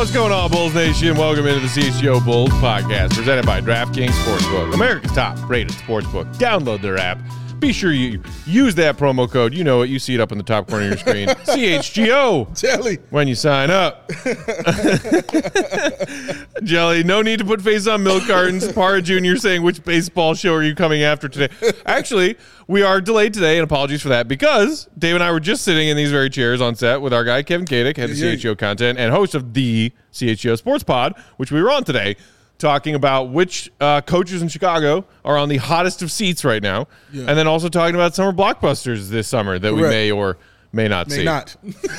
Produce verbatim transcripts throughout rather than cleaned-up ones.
What's going on, Bulls Nation? Welcome into the C H G O Bulls podcast, presented by DraftKings Sportsbook, America's top-rated sportsbook. Download their app. Be sure you use that promo code. You know it. You see it up in the top corner of your screen. C H G O. Jelly. When you sign up. Jelly, no need to put face on milk cartons. Parra Junior saying, which baseball show are you coming after today? Actually, we are delayed today, and apologies for that, because Dave and I were just sitting in these very chairs on set with our guy, Kevin Kadick, head of yeah, C H G O content and host of the C H G O Sports Pod, which we were on today, talking about which uh, coaches in Chicago are on the hottest of seats right now, yeah. and then also talking about summer blockbusters this summer that Correct. we may or may not may see. not.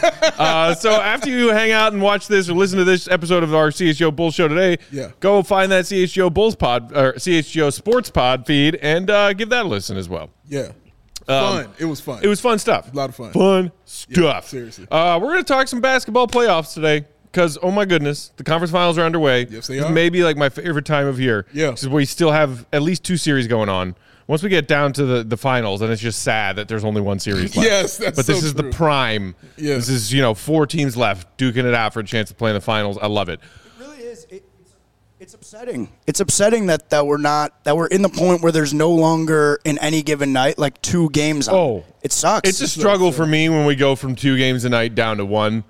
uh, so after you hang out and watch this or listen to this episode of our C H G O Bulls show today, yeah. go find that C H G O Bulls Pod or C H G O Sports Pod feed and uh, give that a listen as well. Yeah. Um, fun. It was fun. It was fun stuff. A lot of fun. Fun stuff. Yeah, seriously. Uh, we're going to talk some basketball playoffs today. Because, oh my goodness, the conference finals are underway. Yes, they it's are. Maybe like my favorite time of year. Yeah. Because we still have at least two series going on. Once we get down to the, the finals, and it's just sad that there's only one series left. Yes, that's But this so is true. the prime. Yeah. This is, you know, four teams left duking it out for a chance to play in the finals. I love it. It really is. It, it's, it's upsetting. It's upsetting that, that we're not that we're in the point where there's no longer in any given night like two games on. Oh. It sucks. It's a struggle for me when we go from two games a night down to one.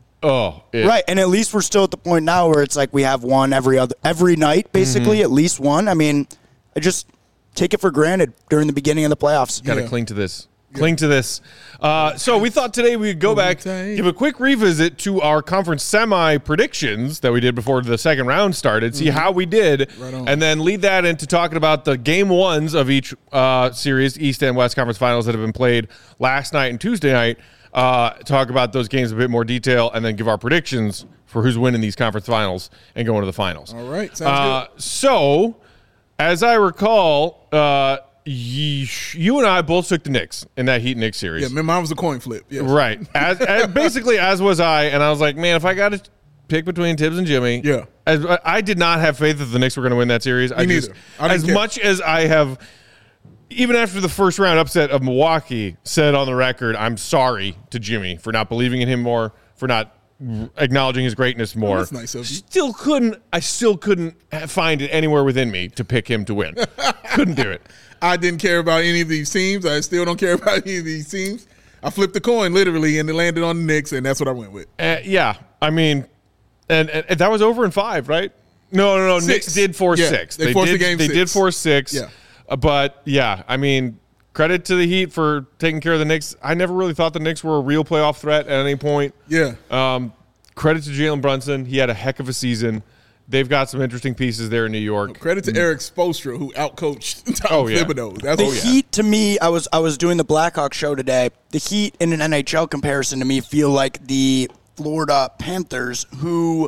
Oh, it, right, and at least we're still at the point now where it's like we have one every other every night, basically, mm-hmm. at least one. I mean, I just take it for granted during the beginning of the playoffs. Got to yeah. cling to this. Yeah. Cling to this. Uh, so we thought today we'd go back, give a quick revisit to our conference semi predictions that we did before the second round started, see mm-hmm. how we did, right on. and then lead that into talking about the game ones of each uh, series, East and West Conference Finals that have been played last night and Tuesday night. Uh, talk about those games in a bit more detail, and then give our predictions for who's winning these conference finals and going to the finals. All right, sounds uh, good. So, as I recall, uh, you, you and I both took the Knicks in that Heat Knicks series. Yeah, man, mine was a coin flip. Yes. Right. As, as basically, as was I, and I was like, man, if I got to pick between Tibbs and Jimmy, yeah, as, I did not have faith that the Knicks were going to win that series. Me I neither. Just, I didn't as care. much as I have. Even after the first round upset of Milwaukee, said on the record, I'm sorry to Jimmy for not believing in him more, for not acknowledging his greatness more. Oh, that's nice of you. Still couldn't, I still couldn't find it anywhere within me to pick him to win. Couldn't do it. I didn't care about any of these teams. I still don't care about any of these teams. I flipped the coin literally, and it landed on the Knicks, and that's what I went with. Uh, yeah, I mean, and, and that was over in five, right? No, no, no. Six. Knicks did force yeah, six. They, they forced did, the game They six. did force six. Yeah. Uh, but, yeah, I mean, credit to the Heat for taking care of the Knicks. I never really thought the Knicks were a real playoff threat at any point. Yeah. Um, credit to Jalen Brunson. He had a heck of a season. They've got some interesting pieces there in New York. Credit to Eric Spoelstra, who outcoached Tom Oh, yeah. Thibodeau. That's The oh, yeah. Heat, to me, I was I was doing the Blackhawks show today. The Heat, in an N H L comparison, to me, feel like the Florida Panthers, who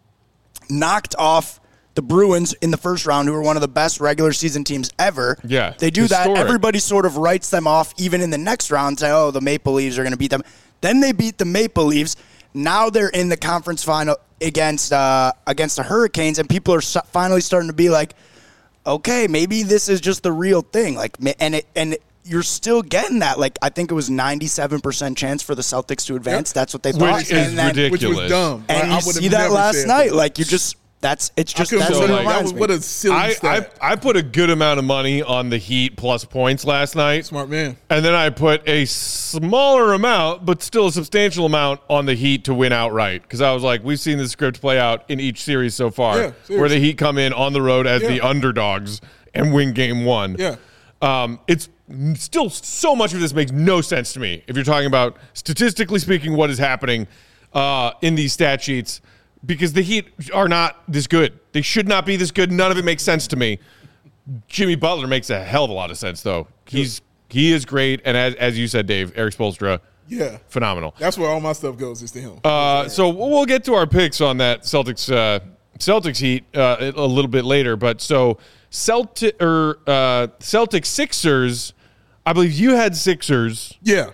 knocked off the Bruins in the first round, who are one of the best regular season teams ever. Yeah, they do historic. that. Everybody sort of writes them off, even in the next round, say, oh, the Maple Leafs are going to beat them. Then they beat the Maple Leafs. Now they're in the conference final against uh, against the Hurricanes, and people are finally starting to be like, okay, maybe this is just the real thing. Like, and it, and you're still getting that. Like, I think it was ninety-seven percent chance for the Celtics to advance. Yep. That's what they thought. Which is and then, ridiculous. Which was dumb. And I, you I would've see that never last said night. that. Like, you just that's it's just I couldn't that's believe what it that. reminds That was, what me. a silly I, I, stat. I put a good amount of money on the Heat plus points last night. Smart man. And then I put a smaller amount, but still a substantial amount, on the Heat to win outright. Because I was like, we've seen this script play out in each series so far, Yeah, where seriously. the Heat come in on the road as Yeah. the underdogs and win game one. Yeah. Um, it's still so much of this makes no sense to me if you're talking about, statistically speaking, what is happening uh, in these stat sheets. Because the Heat are not this good. They should not be this good. None of it makes sense to me. Jimmy Butler makes a hell of a lot of sense, though. He's he is great, and as as you said, Dave, Eric Spoelstra, Yeah. phenomenal. That's where all my stuff goes, is to him. Uh, so we'll get to our picks on that Celtics uh, Celtics Heat uh, a little bit later. But so Celtic or uh, Celtics Sixers, I believe you had Sixers. yeah.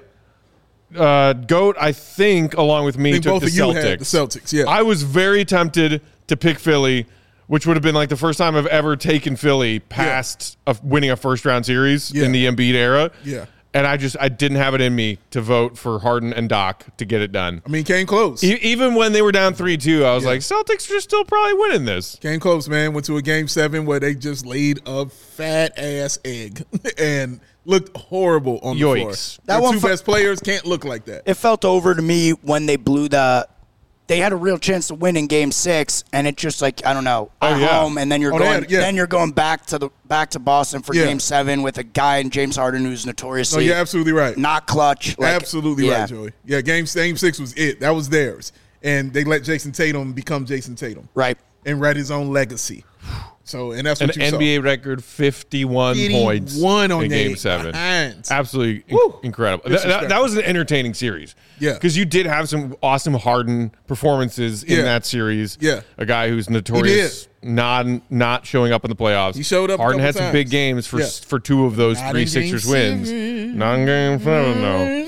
Uh, Goat, I think, along with me, I think took both the of you Celtics. had the Celtics, yeah. I was very tempted to pick Philly, which would have been like the first time I've ever taken Philly past a, winning a first round series Yeah. in the Embiid era. Yeah. And I just I didn't have it in me to vote for Harden and Doc to get it done. I mean, came close. E- even when they were down three two, I was Yeah. like, Celtics are still probably winning this. Came close, man. Went to a game seven where they just laid a fat ass egg and looked horrible on the Yikes. floor. That Their one two fu- best players can't look like that. It felt over to me when they blew the. They had a real chance to win in Game Six, and it just like I don't know Oh, at yeah. home, and then you're Oh, they going, had- yeah. then you're going back to the back to Boston for Yeah. Game Seven with a guy in James Harden who's No, notoriously you're absolutely right. not clutch. Like, absolutely yeah. right, Joey. Yeah, game game six was it. That was theirs, and they let Jason Tatum become Jason Tatum, Right. and write his own legacy. So, and that's An what you N B A saw. record fifty-one points One on in their Game Seven. hands. Absolutely in- Woo. incredible. Th- that, that was an entertaining series. Yeah. Because you did have some awesome Harden performances in Yeah. that series. Yeah. A guy who's notorious not not showing up in the playoffs. He showed up a Harden couple had some times. big games for Yeah. s- for two of those Not three in Sixers game wins. seven. Not in game seven,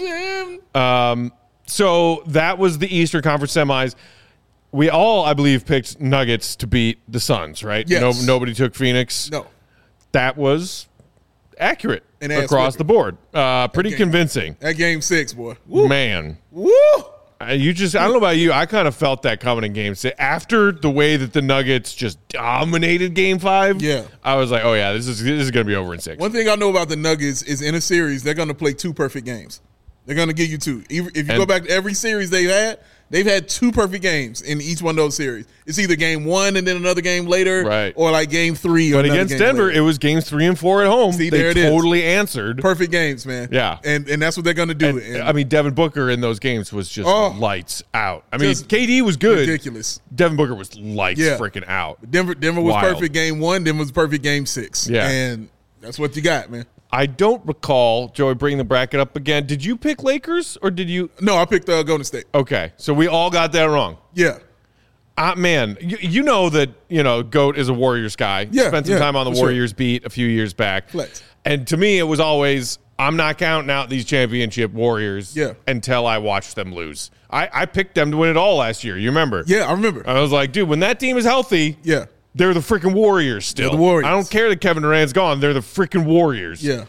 no. Um, so that was the Eastern Conference semis. We all, I believe, picked Nuggets to beat the Suns, right? Yes. No, nobody took Phoenix. No. That was accurate An ass across whipping. the board. Uh, pretty game. convincing. That game six, boy. Man. Woo! Uh, You just, I don't know about you. I kind of felt that coming in game six. After the way that the Nuggets just dominated game five, Yeah. I was like, oh, yeah, this is this is going to be over in six. One thing I know about the Nuggets is in a series, they're going to play two perfect games. They're going to give you two. Even if you And- go back to every series they've had, they've had two perfect games in each one of those series. It's either game one and then another game later, Right. or like game three. Or But another against game Denver, later. it was games three and four at home. See, they there it is. totally answered. perfect games, man. Yeah. and and that's what they're going to do. And, And I mean, Devin Booker in those games was just Oh. lights out. I mean, Just K D was good. ridiculous. Devin Booker was lights Yeah. freaking out. Denver, Denver was Wild. perfect game one. Denver was perfect game six. Yeah. and that's what you got, man. I don't recall, Joey, bringing the bracket up again. Did you pick Lakers or did you? No, I picked uh, Golden State. Okay, so we all got that wrong. Yeah, Uh, man, you, you know that, you know, GOAT is a Warriors guy. Yeah, Spent some yeah, time on the for sure. Warriors beat a few years back. Flex. And to me, it was always, I'm not counting out these championship Warriors Yeah. until I watch them lose. I, I picked them to win it all last year. You remember? yeah, I remember. I was like, dude, when that team is healthy, yeah, they're the freaking Warriors still. They're the Warriors. I don't care that Kevin Durant's gone. They're the freaking Warriors. yeah.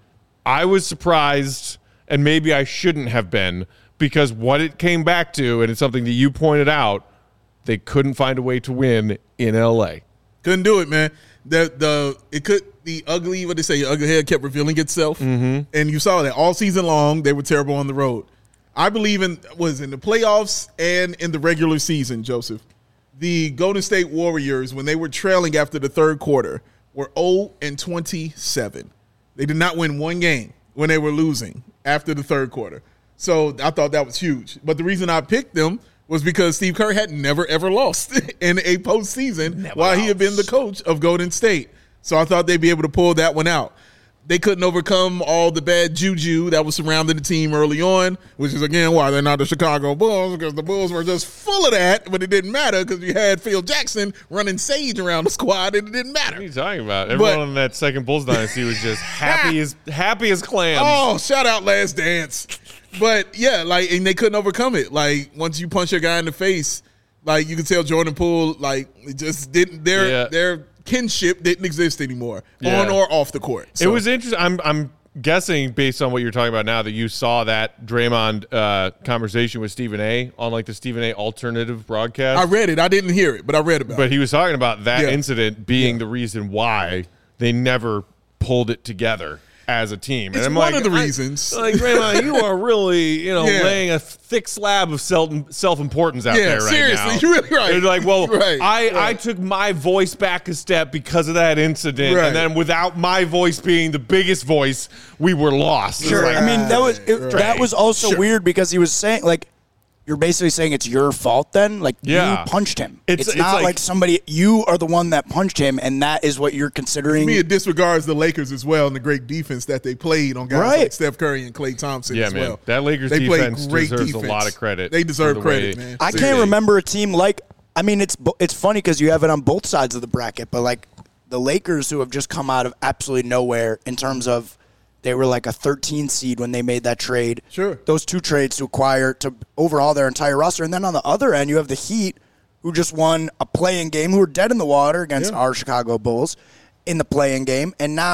I was surprised, and maybe I shouldn't have been, because what it came back to, and it's something that you pointed out, they couldn't find a way to win in L A. Couldn't do it, man. The the it could the ugly what they say, your ugly head kept revealing itself, mm-hmm. and you saw that all season long. They were terrible on the road. I believe in was in the playoffs and in the regular season, Joseph. The Golden State Warriors, when they were trailing after the third quarter, were zero and twenty-seven. They did not win one game when they were losing after the third quarter. So I thought that was huge. But the reason I picked them was because Steve Kerr had never, ever lost in a postseason Never while he had been the lost. coach of Golden State. So I thought they'd be able to pull that one out. They couldn't overcome all the bad juju that was surrounding the team early on, which is, again, why they're not the Chicago Bulls, because the Bulls were just full of that, but it didn't matter because you had Phil Jackson running sage around the squad, and it didn't matter. What are you talking about? Everyone But- in that second Bulls dynasty was just happy as happy as clams. Oh, shout out Last Dance. But yeah, like, and they couldn't overcome it. Like, once you punch a guy in the face, like, you could tell Jordan Poole, like, it just didn't, their Yeah. their kinship didn't exist anymore, Yeah. on or off the court. It So, was interesting. I'm I'm guessing based on what you're talking about now that you saw that Draymond uh, conversation with Stephen A. on like the Stephen A. alternative broadcast. I read it. I didn't hear it, but I read about But it. he was talking about that Yeah. incident being the reason why they never pulled it together as a team. And It's I'm one like, of the I- reasons. like, Draymond, you are really, you know, Yeah. laying a thick slab of self self importance out Yeah, there right seriously, now. you're really right. You're like, well, Right, I, I right. took my voice back a step because of that incident, Right. and then without my voice being the biggest voice, we were lost. It's Sure. like, I mean, that was it, Right. that was also Sure. weird because he was saying like, you're basically saying it's your fault. Then, like, Yeah. you punched him. It's- It's, it's not like- like, somebody. You are the one that punched him, and that is what you're considering. To me, it disregards the Lakers as well and the great defense that they played on guys Right. like Steph Curry and Klay Thompson Yeah, as man. well. That Lakers They played defense great deserves a defense. lot of credit They for deserve the credit, way- man. I Seriously. can't remember a team like. I mean, it's bo- it's funny because you have it on both sides of the bracket, but like the Lakers, who have just come out of absolutely nowhere in terms of they were like a thirteen seed when they made that trade. Sure. Those two trades to acquire to overhaul their entire roster, and then on the other end, you have the Heat, who just won a play-in game, who were dead in the water against Yeah. our Chicago Bulls in the play-in game, and now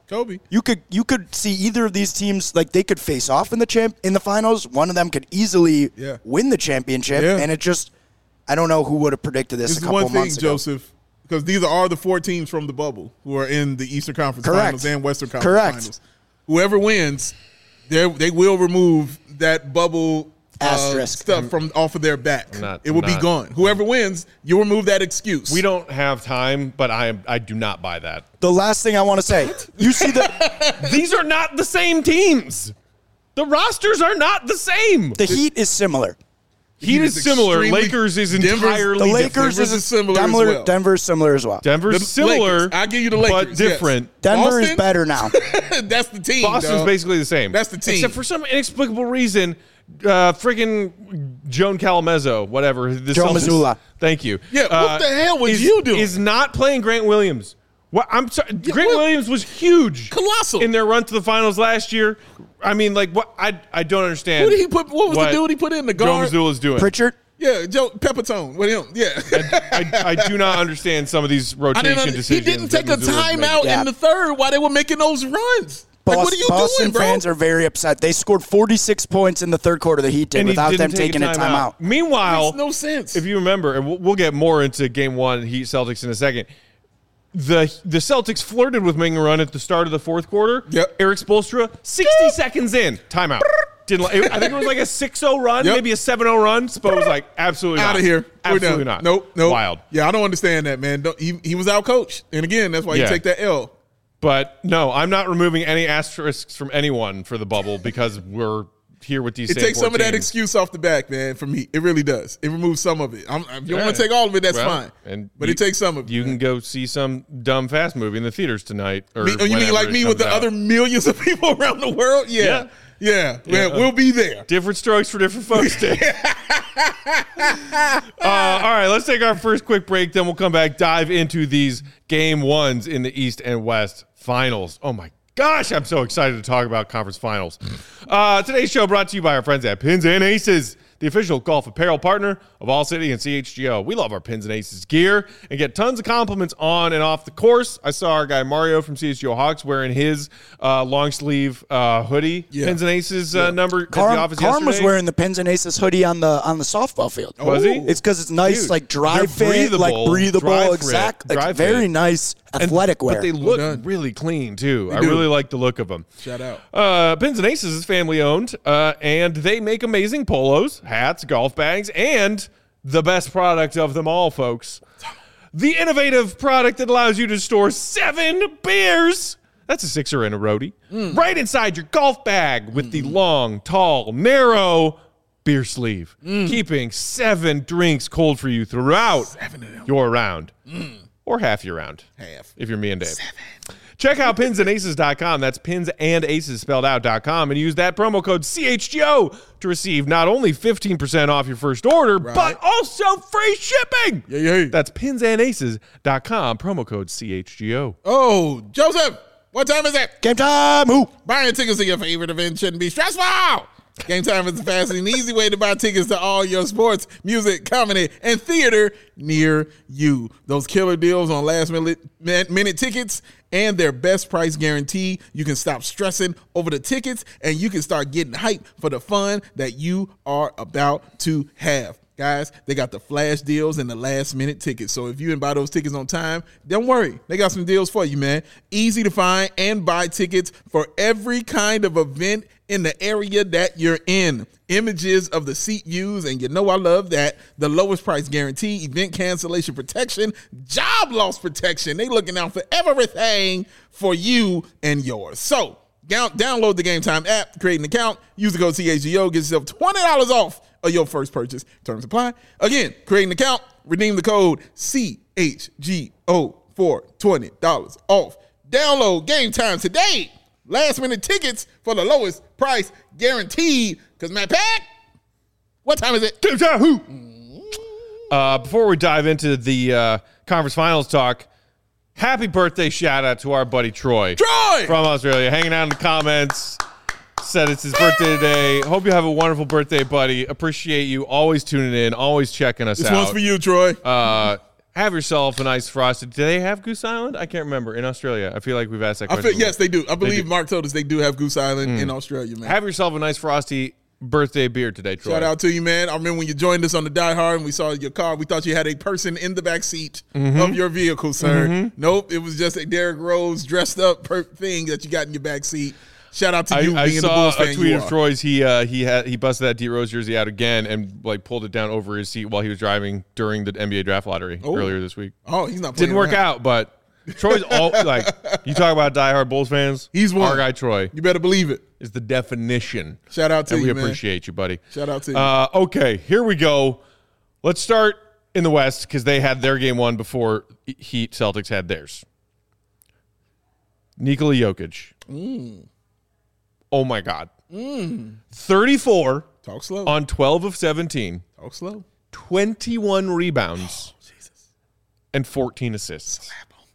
Kobe. You could you could see either of these teams, like they could face off in the champ in the finals. One of them could easily Yeah. win the championship, Yeah. and it just I don't know who would have predicted this, This a is couple one of thing, months ago. Joseph, because these are the four teams from the bubble who are in the Eastern Conference Correct. Finals and Western Conference Correct. Finals. Whoever wins, they they will remove that bubble uh, Asterisk. stuff from off of their back. Not- it will be not- gone. Whoever wins, you remove that excuse. We don't have time, but I I do not buy that. The last thing I want to say, you see the These are not the same teams. The rosters are not the same. the Heat is similar. Heat is similar. extremely- Lakers is Denver's- entirely The different. Lakers Denver's is is similar as Denver, well. Denver's similar as well. Denver's The similar. Lakers. I'll give you the but Lakers, yes. different. Denver is Boston? better now. That's the team. Boston's dog. basically the same. That's the team. Except for some inexplicable reason, uh, freaking Joan Calamezzo, whatever. The Joe Celtics- Mazzulla. Thank you. Yeah, what Uh, the hell was is, you doing? Is not playing Grant Williams. What I'm sorry. Grant what? Williams was huge, Colossal. in their run to the finals last year. I mean, like what? I I don't understand. Who did he put? What was the dude he put in the guard? Joe Mazzulla's doing. Pritchard, Yeah, Joe Pepitone with him. Yeah. I, I do not understand some of these I rotation didn't. Under- he decisions. didn't that take a Mazzulla's making. timeout Yeah. in the third while they were making those runs. Like, Boston, what are you Boston doing, bro? fans are very upset. They scored forty-six points in the third quarter. The Heat did And he without didn't them take taking a timeout. Meanwhile, Makes no sense. If you remember, and we'll, we'll get more into Game One Heat Celtics in a second. The the Celtics flirted with making a run at the start of the fourth quarter. Yep. Eric Spoelstra, sixty seconds in, timeout. Didn't li- I think it was like a six oh run, Yep. maybe a seven oh run. Spo was like, absolutely out not. of here. We're Absolutely done. not. Nope. Nope. Wild. Yeah, I don't understand that, man. Don't, he, he was out coached, and again, that's why Yeah. you take that L. But no, I'm not removing any asterisks from anyone for the bubble because we're here with these. It same takes four some of that teams. excuse off the back, man. For me, it really does. It removes some of it. I'm, if you don't Yeah. want to take all of it, that's Well, fine. and but you- it takes some of it. You man. can go see some dumb fast movie in the theaters tonight. Or Me- oh, you mean whenever like it me with comes the out. other millions of people around the world? Yeah. Yeah. Yeah. Yeah. Man, we'll be there. Different strokes for different folks, Dave. uh, all right, let's take our first quick break. Then we'll come back, dive into these game ones in the East and West finals. Oh, my gosh, I'm so excited to talk about conference finals. Uh, today's show brought to you by our friends at Pins and Aces, the official golf apparel partner of All City and C H G O. We love our Pins and Aces gear and get tons of compliments on and off the course. I saw our guy Mario from C H G O Hawks wearing his uh, long sleeve uh, hoodie, Yeah. Pins and Aces uh, number at the Carm, office Carm was yesterday. wearing the Pins and Aces hoodie on the on the softball field. Was he? It's because it's nice, Dude, like dry they're fit, like breathable, breathable, dry fit, exact, like dry very fit. nice And- athletic wear. But they look done. really clean too. I do. really like the look of them. Shout out. Uh, Pins and Aces is family owned, uh, and they make amazing polos, hats, golf bags, and the best product of them all, folks. The innovative product that allows you to store seven beers. That's a sixer and a roadie. Right inside your golf bag with the long, tall, narrow beer sleeve, keeping seven drinks cold for you throughout your round. Or half your round. Half. If you're me and Dave. Check out pins and aces dot com. That's pins and aces spelled out dot com, and use that promo code C H G O to receive not only fifteen percent off your first order, but also free shipping. Yeah, yeah. That's pins and aces dot com, promo code C H G O. Oh, Joseph, what time is it? Game time. Who? Buying tickets to your favorite event shouldn't be stressful. Game Time is the fast and easy way to buy tickets to all your sports, music, comedy, and theater near you. Those killer deals on last minute, minute tickets and their best price guarantee. You can stop stressing over the tickets and you can start getting hyped for the fun that you are about to have. Guys, they got the flash deals and the last minute tickets. So if you didn't buy those tickets on time, don't worry. They got some deals for you, man. Easy to find and buy tickets for every kind of event in the area that you're in. Images of the seat views, and you know I love that. The lowest price guarantee, event cancellation protection, job loss protection. They looking out for everything for you and yours. So down, download the Game Time app, create an account, use the code C H G O, get yourself twenty dollars off of your first purchase. Terms apply. Again, create an account, redeem the code C H G O for twenty dollars off. Download Game Time today. Last minute tickets for the lowest price guaranteed. Because Matt Pack, what time is it? Game time, who? Uh, before we dive into the uh, conference finals talk, happy birthday shout out to our buddy Troy. Troy! From Australia, hanging out in the comments. Said it's his birthday today. Hope you have a wonderful birthday, buddy. Appreciate you always tuning in, always checking us This out. one's for you, Troy. Uh, have yourself a nice frosted. Do they have Goose Island? I can't remember. In Australia, I feel like we've asked that I question. feel, yes, they do. I believe do. Mark told us they do have Goose Island mm. in Australia, man. Have yourself a nice frosty birthday beer today, Troy. Shout out to you, man. I remember when you joined us on the Die Hard and we saw your car, we thought you had a person in the back seat mm-hmm. of your vehicle, sir. Mm-hmm. Nope, it was just a Derrick Rose dressed up per- thing that you got in your back seat. Shout out to you I, being I the Bulls saw fan a tweet you of are. Troy's. He uh, he had he busted that D Rose jersey out again and like pulled it down over his seat while he was driving during the N B A draft lottery oh. earlier this week. Oh, he's not playing Didn't work around. out, but Troy's all like you talk about diehard Bulls fans. He's one. Our guy Troy You better believe it. is the definition. Shout out to and you, we man. appreciate you, buddy. Shout out to you. Uh, okay, here we go. Let's start in the West because they had their game one before Heat Celtics had theirs. Nikola Jokic. Mm. Oh my God. Mm. thirty-four Talk slow. on twelve of seventeen. Talk slow. twenty-one rebounds. Oh, Jesus. And fourteen assists.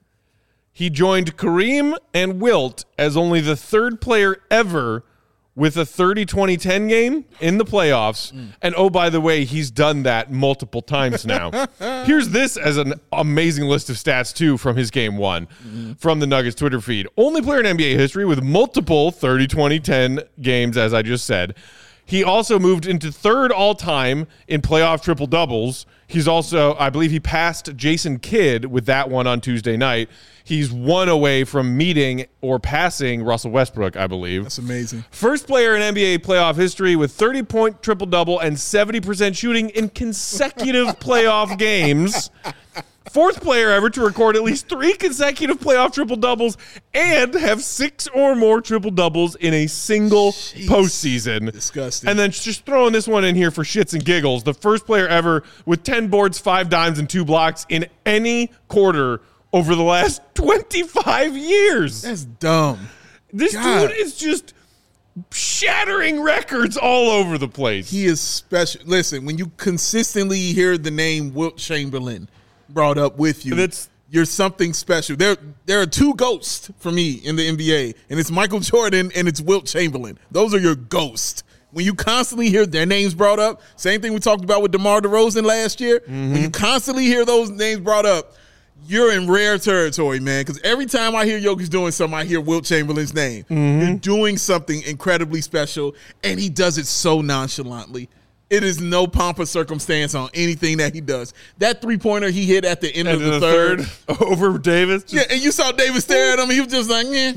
He joined Kareem and Wilt as only the third player ever with a thirty twenty ten game in the playoffs. Mm. And oh, by the way, he's done that multiple times now. Here's this as an amazing list of stats, too, from his game one mm-hmm. from the Nuggets Twitter feed. Only player in N B A history with multiple thirty twenty ten games, as I just said. He also moved into third all-time in playoff triple-doubles. He's also, I believe he passed Jason Kidd with that one on Tuesday night. He's one away from meeting or passing Russell Westbrook, I believe. That's amazing. First player in N B A playoff history with thirty-point triple-double and seventy percent shooting in consecutive playoff games. Fourth player ever to record at least three consecutive playoff triple-doubles and have six or more triple-doubles in a single Jeez. postseason. Disgusting. And then just throwing this one in here for shits and giggles. The first player ever with ten boards, five dimes, and two blocks in any quarter over the last twenty-five years. That's dumb. This God. dude is just shattering records all over the place. He is special. Listen, when you consistently hear the name Wilt Chamberlain brought up with you, That's, you're something special. There, there are two ghosts for me in the N B A, and it's Michael Jordan and it's Wilt Chamberlain. Those are your ghosts. When you constantly hear their names brought up, same thing we talked about with DeMar DeRozan last year. Mm-hmm. When you constantly hear those names brought up, you're in rare territory, man, because every time I hear Jokic doing something, I hear Wilt Chamberlain's name. Mm-hmm. You're doing something incredibly special, and he does it so nonchalantly. It is no pomp or circumstance on anything that he does. That three-pointer he hit at the end and of the, the third. third over Davis. Just, yeah, and you saw Davis stare at him. He was just like, yeah,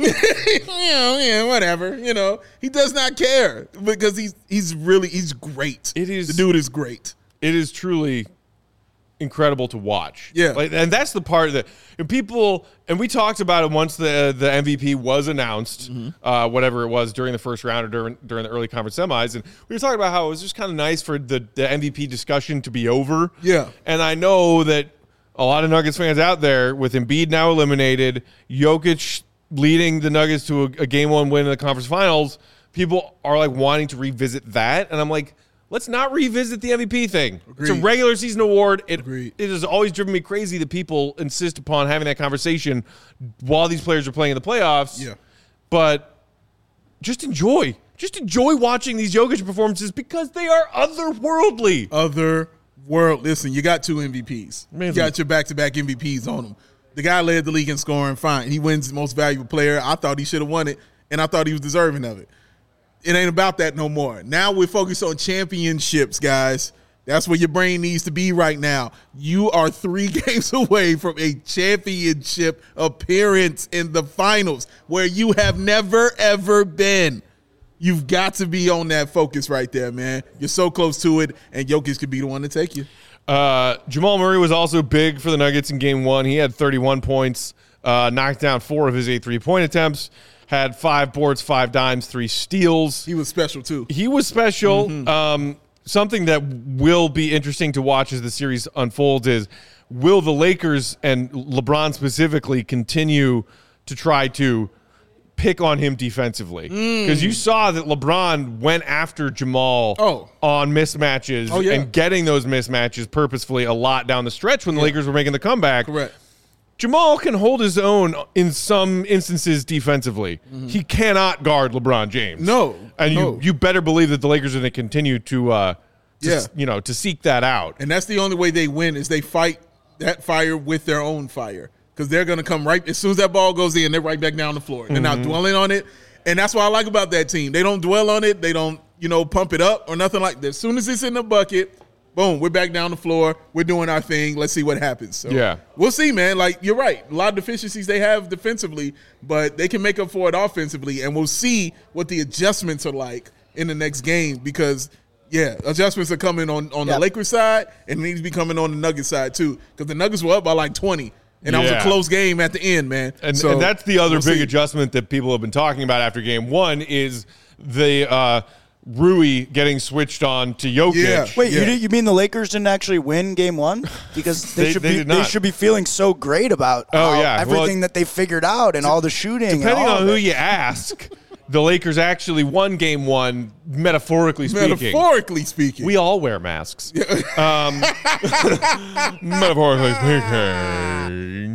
you know, yeah, whatever. You know, he does not care because he's he's really he's great. It is the dude is great. It is truly incredible to watch. Yeah. Like, and that's the part that and people, and we talked about it once the the M V P was announced, mm-hmm. uh, whatever it was during the first round or during, during the early conference semis. And we were talking about how it was just kind of nice for the, the M V P discussion to be over. Yeah. And I know that a lot of Nuggets fans out there with Embiid now eliminated, Jokic leading the Nuggets to a, a game one win in the conference finals, people are like wanting to revisit that. And I'm like, let's not revisit the M V P thing. Agreed. It's a regular season award. It, Agreed. it has always driven me crazy that people insist upon having that conversation while these players are playing in the playoffs. Yeah. But just enjoy. Just enjoy watching these Jokic performances because they are otherworldly. Other world. Listen, you got two M V Ps. Amazing. You got your back-to-back M V Ps on him. The guy led the league in scoring. Fine. He wins most valuable player. I thought he should have won it, and I thought he was deserving of it. It ain't about that no more. Now we're focused on championships, guys. That's where your brain needs to be right now. You are three games away from a championship appearance in the finals where you have never, ever been. You've got to be on that focus right there, man. You're so close to it, and Jokic could be the one to take you. Uh, Jamal Murray was also big for the Nuggets in game one. He had thirty-one points, uh, knocked down four of his eight three-point attempts. Had five boards, five dimes, three steals. He was special, too. He was special. Mm-hmm. Um, something that will be interesting to watch as the series unfolds is, will the Lakers and LeBron specifically continue to try to pick on him defensively? Because mm. you saw that LeBron went after Jamal oh. on mismatches oh, yeah. and getting those mismatches purposefully a lot down the stretch when the yeah. Lakers were making the comeback. Correct. Jamal can hold his own in some instances defensively. Mm-hmm. He cannot guard LeBron James. No, and no. you you better believe that the Lakers are going to continue to, uh, to yeah. you know, to seek that out. And that's the only way they win is they fight that fire with their own fire because they're going to come right as soon as that ball goes in, they're right back down the floor. They're mm-hmm. not dwelling on it, and that's what I like about that team. They don't dwell on it. They don't, you know, pump it up or nothing like that. As soon as it's in the bucket, boom, we're back down the floor. We're doing our thing. Let's see what happens. So yeah. We'll see, man. Like, you're right. A lot of deficiencies they have defensively, but they can make up for it offensively, and we'll see what the adjustments are like in the next game because, yeah, adjustments are coming on, on yep. the Lakers side, and they need to be coming on the Nuggets side too because the Nuggets were up by like twenty, and that yeah. was a close game at the end, man. And, so, and that's the other we'll big see. adjustment that people have been talking about after game one is the uh, – Rui getting switched on to Jokic. Yeah. Wait, yeah. you, you mean the Lakers didn't actually win game one? Because they, they should they be did not. they should be feeling so great about oh, how yeah. everything well, that they figured out and all the shooting. Depending and all on of who it. you ask, the Lakers actually won game one, metaphorically speaking. Metaphorically speaking. We all wear masks. um, metaphorically speaking.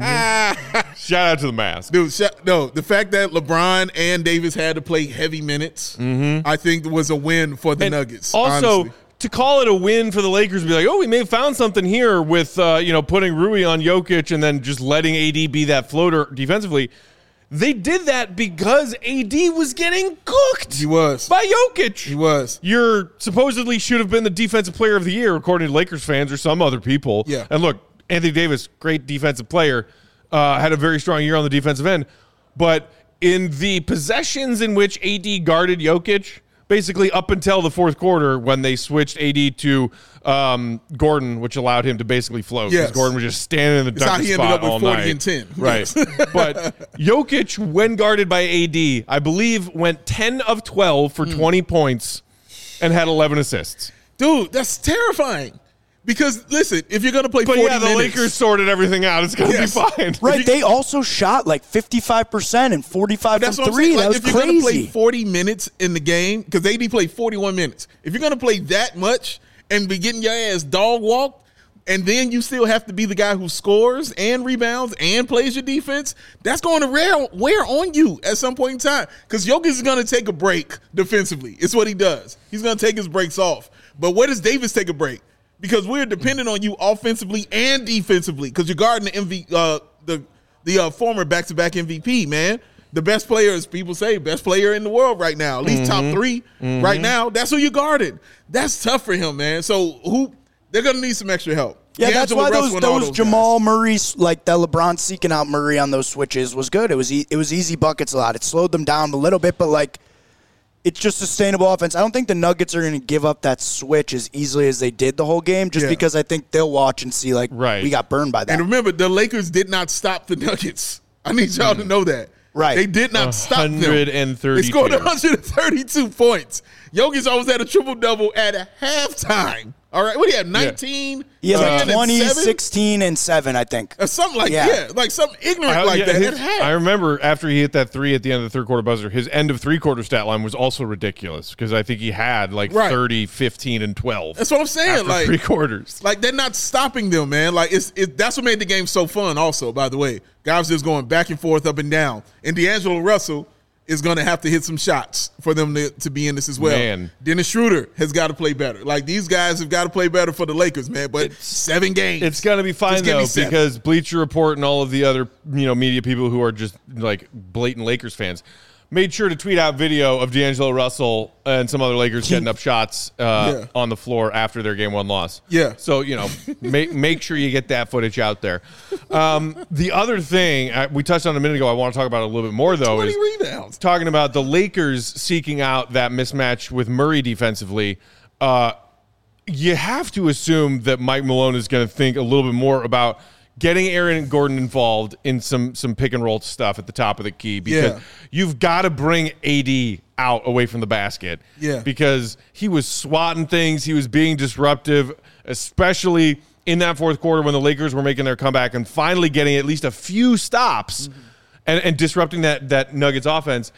Shout out to the mask. Dude, sh- no, the fact that LeBron and Davis had to play heavy minutes, mm-hmm. I think was a win for the and Nuggets. Also, honestly. to call it a win for the Lakers and be like, oh, we may have found something here with uh, you know putting Rui on Jokic and then just letting A D be that floater defensively. They did that because A D was getting cooked. He was. By Jokic. He was. You're supposedly should have been the defensive player of the year, according to Lakers fans or some other people. Yeah. And look, Anthony Davis, great defensive player, uh, had a very strong year on the defensive end. But in the possessions in which A D guarded Jokic, basically up until the fourth quarter when they switched A D to um, Gordon, which allowed him to basically float. Because Yes. Gordon was just standing in the It's how dunker he spot ended up with all forty night. and ten. Right. But Jokic, when guarded by A D, I believe went ten of twelve for Mm. twenty points and had eleven assists. Dude, that's terrifying. Because, listen, if you're going to play But forty yeah, the minutes. Lakers sorted everything out. It's going to Yes. be fine. Right, they also shot like fifty-five percent and forty-five That's from what I'm three. saying. That Like, was if you're going to play crazy. forty minutes in the game, because A D played forty-one minutes. If you're going to play that much and be getting your ass dog walked, and then you still have to be the guy who scores and rebounds and plays your defense, that's going to wear, wear on you at some point in time. Because Jokic is going to take a break defensively. It's what he does. He's going to take his breaks off. But where does Davis take a break? Because we're dependent on you offensively and defensively. Because you're guarding the M V, uh, the the uh, former back-to-back M V P, man. The best player, as people say, best player in the world right now, at least Mm-hmm. top three mm-hmm. right now. That's who you're guarding. That's tough for him, man. So who they're gonna need some extra help. Yeah, that's D'Angelo why those Russell and all those guys. Jamal Murray's, like that LeBron seeking out Murray on those switches was good. It was e- it was easy buckets a lot. It slowed them down a little bit, but like it's just sustainable offense. I don't think the Nuggets are going to give up that switch as easily as they did the whole game, just Yeah. because I think they'll watch and see like Right. we got burned by that. And remember, the Lakers did not stop the Nuggets. I need y'all to know that. Right. They did not stop them. one hundred thirty-two. They scored one hundred thirty-two points. Jokic almost had a triple-double at halftime. All right. What do you have, nineteen? He had ten, like and twenty, seven? sixteen, and seven, I think. Or something like Yeah. yeah. like something ignorant I, like yeah, that. his- at half. I remember after he hit that three at the end of the third quarter buzzer, his end of three quarter stat line was also ridiculous because I think he had like Right. thirty, fifteen, and twelve. That's what I'm saying. After Like three quarters. Like they're not stopping them, man. Like it's it, that's what made the game so fun. Also, by the way, guys just going back and forth, up and down. And D'Angelo Russell is going to have to hit some shots for them to, to be in this as well. Man. Dennis Schroeder has got to play better. Like these guys have got to play better for the Lakers, man. But seven games, It's going to be fine, Just give me though, seven. because Bleacher Report and all of the other you know media people who are just like blatant Lakers fans made sure to tweet out video of D'Angelo Russell and some other Lakers getting up shots uh, Yeah. on the floor after their game one loss. Yeah. So, you know, make, make sure you get that footage out there. Um, the other thing I, we touched on a minute ago, I want to talk about it a little bit more, though, twenty is rebounds. talking about the Lakers seeking out that mismatch with Murray defensively. Uh, you have to assume that Mike Malone is going to think a little bit more about getting Aaron Gordon involved in some some pick and roll stuff at the top of the key because Yeah. you've got to bring A D out away from the basket. Yeah. Because he was swatting things, he was being disruptive, especially in that fourth quarter when the Lakers were making their comeback and finally getting at least a few stops Mm-hmm. and, and disrupting that that Nuggets offense.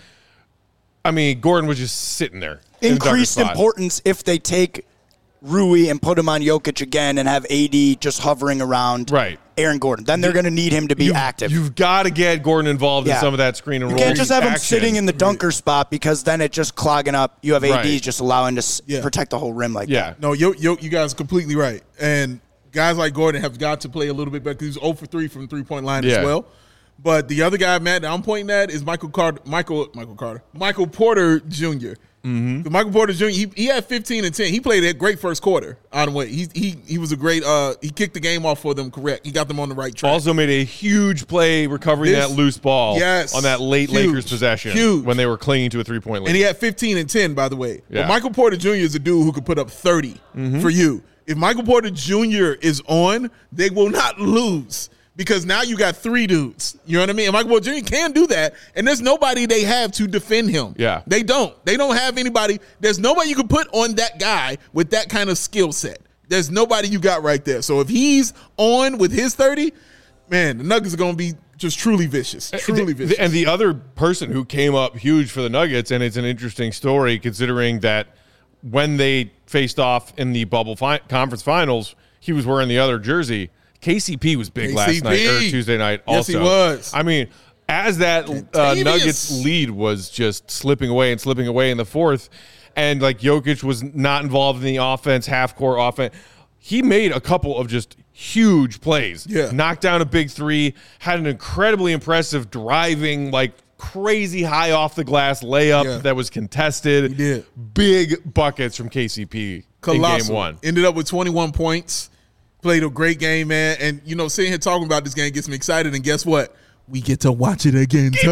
I mean, Gordon was just sitting there. in the darker Increased spot. importance if they take Rui and put him on Jokic again and have A D just hovering around Right. Aaron Gordon. Then they're going to need him to be You- active. You've got to get Gordon involved Yeah. in some of that screen and You roll. can't just have him action. sitting in the dunker spot because then it just clogging up. You have A D Right. just allowing to s- Yeah. protect the whole rim like Yeah. that. No, yo, yo, you guys are completely right. And guys like Gordon have got to play a little bit better because he's zero for three from three-point line Yeah. as well. But the other guy, Matt, that I'm pointing at is Michael Carter, Michael, Michael Carter, Michael Porter Junior Mm-hmm. Michael Porter Junior He, he had fifteen and ten. He played a great first quarter. On the way, he he he was a great. Uh, he kicked the game off for them. Correct. He got them on the right track. Also made a huge play recovering This- that loose ball yes, on that late huge, Lakers possession huge. when they were clinging to a three-point lead. And he had fifteen and ten, by the way. Yeah. But Michael Porter Junior is a dude who could put up thirty Mm-hmm. for you. If Michael Porter Junior is on, they will not lose because now you got three dudes. You know what I mean? And Michael Porter Junior can do that, and there's nobody they have to defend him. Yeah. They don't. They don't have anybody. There's nobody you can put on that guy with that kind of skill set. There's nobody you got right there. So if he's on with his thirty, man, the Nuggets are going to be just truly vicious. Truly The- vicious. And the other person who came up huge for the Nuggets, and it's an interesting story considering that when they faced off in the bubble fi- conference finals, he was wearing the other jersey. K C P was big K C P. last night or Tuesday night. Yes, Also, he was. I mean, as that uh, Contagious. Nuggets lead was just slipping away and slipping away in the fourth, and like Jokic was not involved in the offense, half court offense. He made a couple of just huge plays. Yeah. Knocked down a big three, had an incredibly impressive driving, like crazy high off the glass layup Yeah. that was contested. He did. Big buckets from K C P Colossal. in game one. Ended up with twenty-one points. Played a great game, man. And, you know, sitting here talking about this game gets me excited. And guess what? We get to watch it again Game two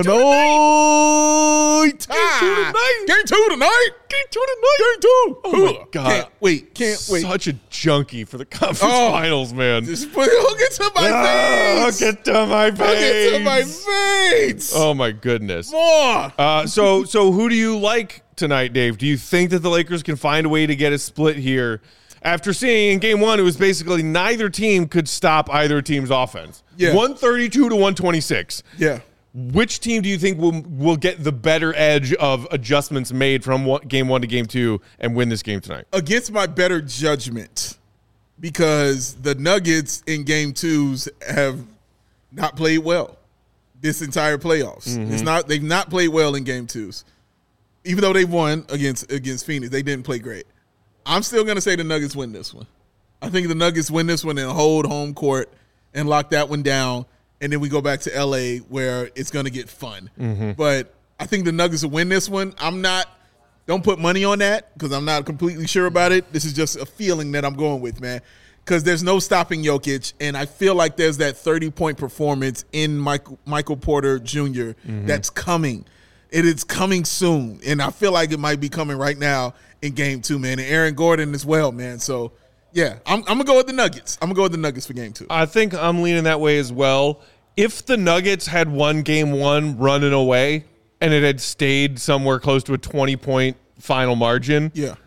tonight. Game two tonight. Game two tonight. Game two tonight. Game two. Oh, my God. Can't wait. Can't wait. Such a junkie for the conference Oh. finals, man. Just put hook it to my Ah, face. Hook it to my face. Hook it to my face. Oh, my goodness. More. Uh, so, so who do you like tonight, Dave? Do you think that the Lakers can find a way to get a split here? After seeing in game one, it was basically neither team could stop either team's offense. Yeah. one thirty-two to one twenty-six. Yeah. Which team do you think will will get the better edge of adjustments made from one, game one to game two and win this game tonight? Against my better judgment, because the Nuggets in game twos have not played well this entire playoffs. Mm-hmm. It's not they've not played well in game twos. Even though they won against against Phoenix, they didn't play great. I'm still gonna say the Nuggets win this one. I think the Nuggets win this one and hold home court and lock that one down. And then we go back to L A where it's going to get fun. Mm-hmm. But I think the Nuggets will win this one. I'm not – don't put money on that because I'm not completely sure about it. This is just a feeling that I'm going with, man, because there's no stopping Jokic, and I feel like there's that thirty-point performance in Michael, Michael Porter Junior Mm-hmm. that's coming. It is coming soon, and I feel like it might be coming right now in game two, man, and Aaron Gordon as well, man. So – yeah, I'm, I'm going to go with the Nuggets. I'm going to go with the Nuggets for game two. I think I'm leaning that way as well. If the Nuggets had won game one running away and it had stayed somewhere close to a twenty-point final margin, Yeah.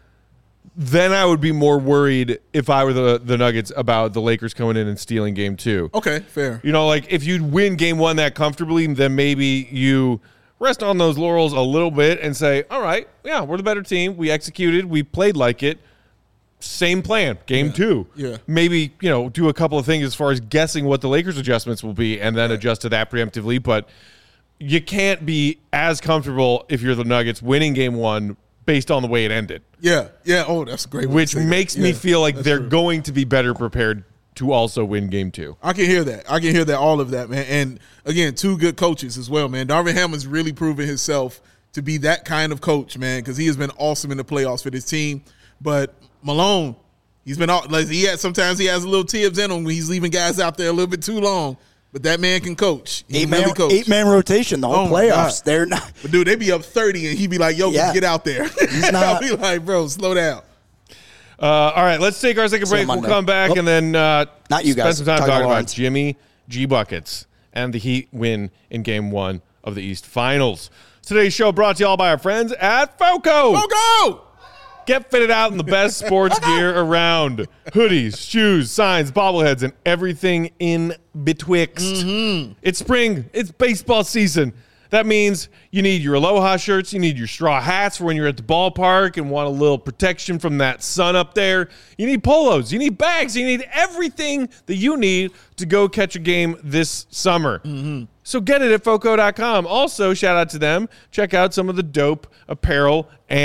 then I would be more worried if I were the, the Nuggets about the Lakers coming in and stealing game two. Okay, fair. You know, like if you win game one that comfortably, then maybe you rest on those laurels a little bit and say, all right, yeah, we're the better team. We executed. We played like it. Same plan, game Yeah. two. Yeah. Maybe, you know, do a couple of things as far as guessing what the Lakers adjustments will be and then adjust to that preemptively. But you can't be as comfortable if you're the Nuggets winning game one based on the way it ended, Yeah, yeah. Oh, that's a great. way to which say that. makes me Yeah, feel like that's they're true. going to be better prepared to also win game two. I can hear that. I can hear that. All of that, man. And again, two good coaches as well, man. Darvin Hamlin's really proven himself to be that kind of coach, man, because he has been awesome in the playoffs for this team. But Malone, he's been all like he has. Sometimes he has a little tips in him when he's leaving guys out there a little bit too long. But that man can coach. He Eight can man, really coach. eight man rotation, the whole Oh, my playoffs. God. They're not. But dude, they be up thirty, and he be like, "Yo, Yeah. get out there." He's not- I'll be like, "Bro, slow down." Uh, all right, let's take our second See you break. We'll Monday. come back Oh. and then uh, Not you spend guys. some time Talk talking about about Lawrence. Jimmy G. Buckets and the Heat win in game one of the East Finals. Today's show brought to you all by our friends at FOCO. Go go! Get fitted out in the best sports gear around. Hoodies, shoes, signs, bobbleheads, and everything in betwixt. Mm-hmm. It's spring. It's baseball season. That means you need your Aloha shirts. You need your straw hats for when you're at the ballpark and want a little protection from that sun up there. You need polos. You need bags. You need everything that you need to go catch a game this summer. Mm-hmm. So get it at foco dot com. Also, shout out to them. Check out some of the dope apparel and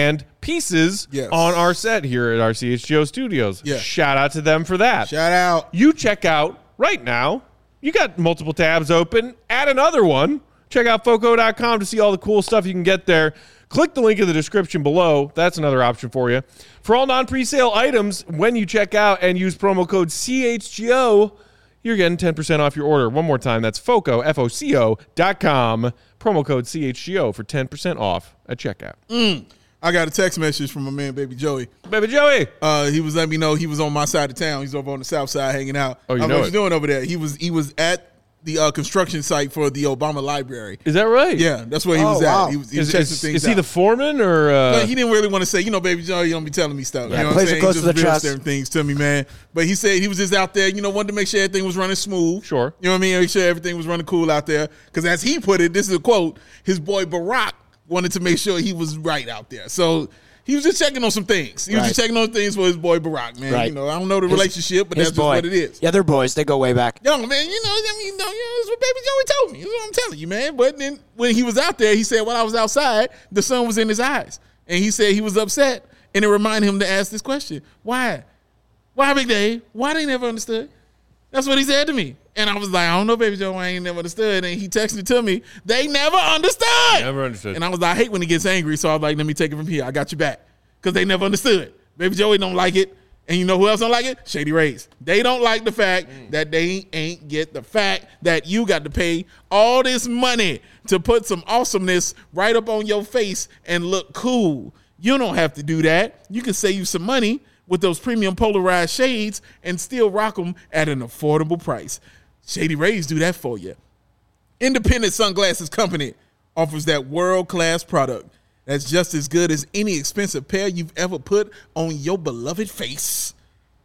pieces Yes. on our set here at our C H G O studios. Yeah. Shout out to them for that. Shout out. You check out right now. You got multiple tabs open. Add another one. Check out foco dot com to see all the cool stuff you can get there. Click the link in the description below. That's another option for you. For all non-presale items, when you check out and use promo code C H G O, you're getting ten percent off your order. One more time, that's Foco, F O C O dot com. Promo code C H G O for ten percent off at checkout. Mm. I got a text message from my man, Baby Joey. Baby Joey. Uh, he was letting me know he was on my side of town. He's over on the south side hanging out. Oh, you I know what it. you doing over there? He was he was at the uh, construction site for the Obama Library. Is that right? Yeah, that's where he Oh, was wow. at. He was, he was Is, checking is, things is he out. the foreman or? Uh, But he didn't really want to say, you know, Baby Joe, you don't be telling me stuff. Yeah, you know what plays I'm it saying? close He to the just revealed chest. certain things to me, man. But he said he was just out there, you know, wanted to make sure everything was running smooth. Sure. You know what I mean? Make sure everything was running cool out there. Because as he put it, this is a quote, his boy Barack wanted to make sure he was right out there. So he was just checking on some things. He was Right. just checking on things for his boy Barack, man. Right. You know, I don't know the His- relationship, but His that's just boy. what it is. Yeah, they're boys. They go way back. Yo, man, you know, I mean, you know, that's what Baby Joey told me. That's what I'm telling you, man. But then when he was out there, he said, while I was outside, the sun was in his eyes. And he said he was upset. And it reminded him to ask this question. Why? Why, Big Dave? Why they never understood? That's what he said to me. And I was like, I don't know, Baby Joe, I ain't never understood. And he texted it to me. They never understood. Never understood. And I was like, I hate when he gets angry. So I was like, let me take it from here. I got you back. Because they never understood. Baby Joey don't like it. And you know who else don't like it? Shady Rays. They don't like the fact mm. that they ain't get the fact that you got to pay all this money to put some awesomeness right up on your face and look cool. You don't have to do that. You can save you some money with those premium polarized shades and still rock them at an affordable price. Shady Rays do that for you. Independent Sunglasses Company offers that world-class product that's just as good as any expensive pair you've ever put on your beloved face.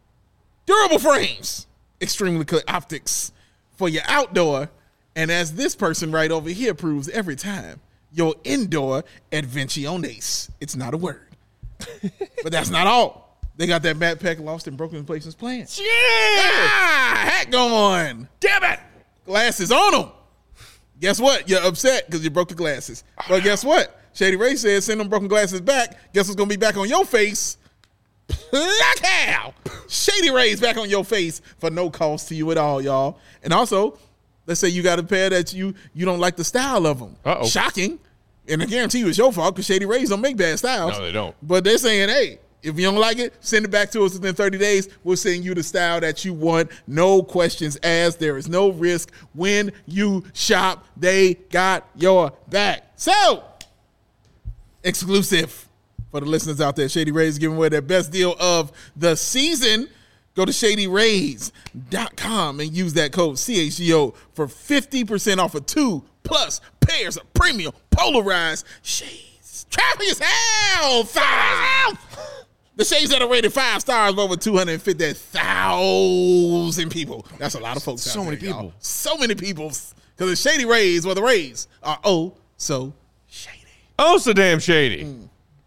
Durable frames, extremely clear optics for your outdoor, and as this person right over here proves every time, your indoor adventiones. It's not a word. But that's not all. They got that backpack lost in broken places plan. yeah. Ah, hat going. Damn it. Glasses on them. Guess what? You're upset because you broke the glasses. But guess what? Shady Ray said, send them broken glasses back. Guess what's going to be back on your face? Black Hal. Shady Ray's back on your face for no cost to you at all, y'all. And also, let's say you got a pair that you you don't like the style of them. Uh-oh. Shocking. And I guarantee you it's your fault because Shady Rays don't make bad styles. No, they don't. But they're saying, hey, if you don't like it, send it back to us within thirty days. We'll send you the style that you want. No questions asked. There is no risk. When you shop, they got your back. So, exclusive for the listeners out there. Shady Rays giving away their best deal of the season. Go to shady rays dot com and use that code C H G O for fifty percent off of two plus pairs of premium polarized shades. Traffic is hell. Five. The shades that are rated five stars with over two hundred fifty thousand people. That's a lot of folks. So out many there, y'all. people. So many people. Because the Shady Rays, well, the Rays are oh so shady. Oh, so damn shady. Mm.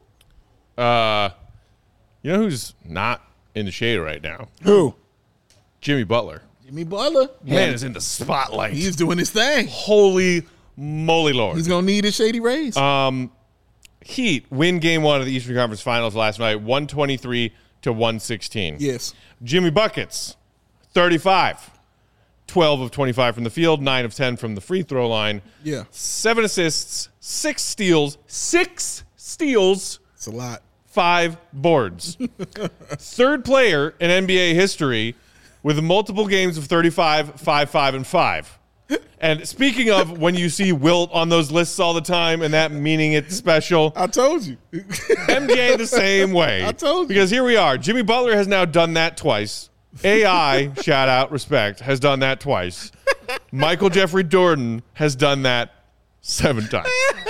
Uh, you know who's not in the shade right now? Who? Jimmy Butler. Jimmy Butler. Man is in the spotlight. He's doing his thing. Holy moly, Lord. He's going to need his Shady Rays. Um, Heat win game one of the Eastern Conference Finals last night, one twenty-three to one sixteen. Yes. Jimmy Buckets, thirty-five. twelve of twenty-five from the field, nine of ten from the free throw line. Yeah. Seven assists, six steals, six steals, It's a lot. five boards. Third player in N B A history with multiple games of thirty-five, five, five, and five. And speaking of when you see Wilt on those lists all the time and that meaning it's special, I told you. M J the same way. I told you. Because here we are. Jimmy Butler has now done that twice. A I, shout out, respect, has done that twice. Michael Jeffrey Jordan has done that seven times.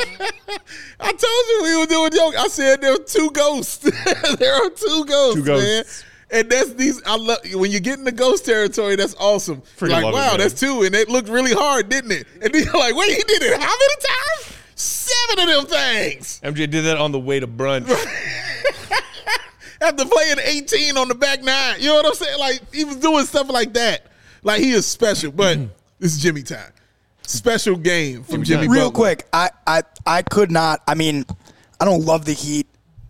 I told you we were doing joke. I said there were two ghosts. There are two ghosts, Two ghosts. man. And that's these. I love when you get in the ghost territory. That's awesome. Freaking like, love it, wow, man. that's two, and it looked really hard, didn't it? And then you're like, wait, he did it how many times? Seven of them things. M J did that on the way to brunch. After playing eighteen on the back nine, you know what I'm saying? Like he was doing stuff like that. Like he is special, but this is Jimmy time. Special game from Jimmy. Real Butler. quick, I, I I could not. I mean, I don't love the Heat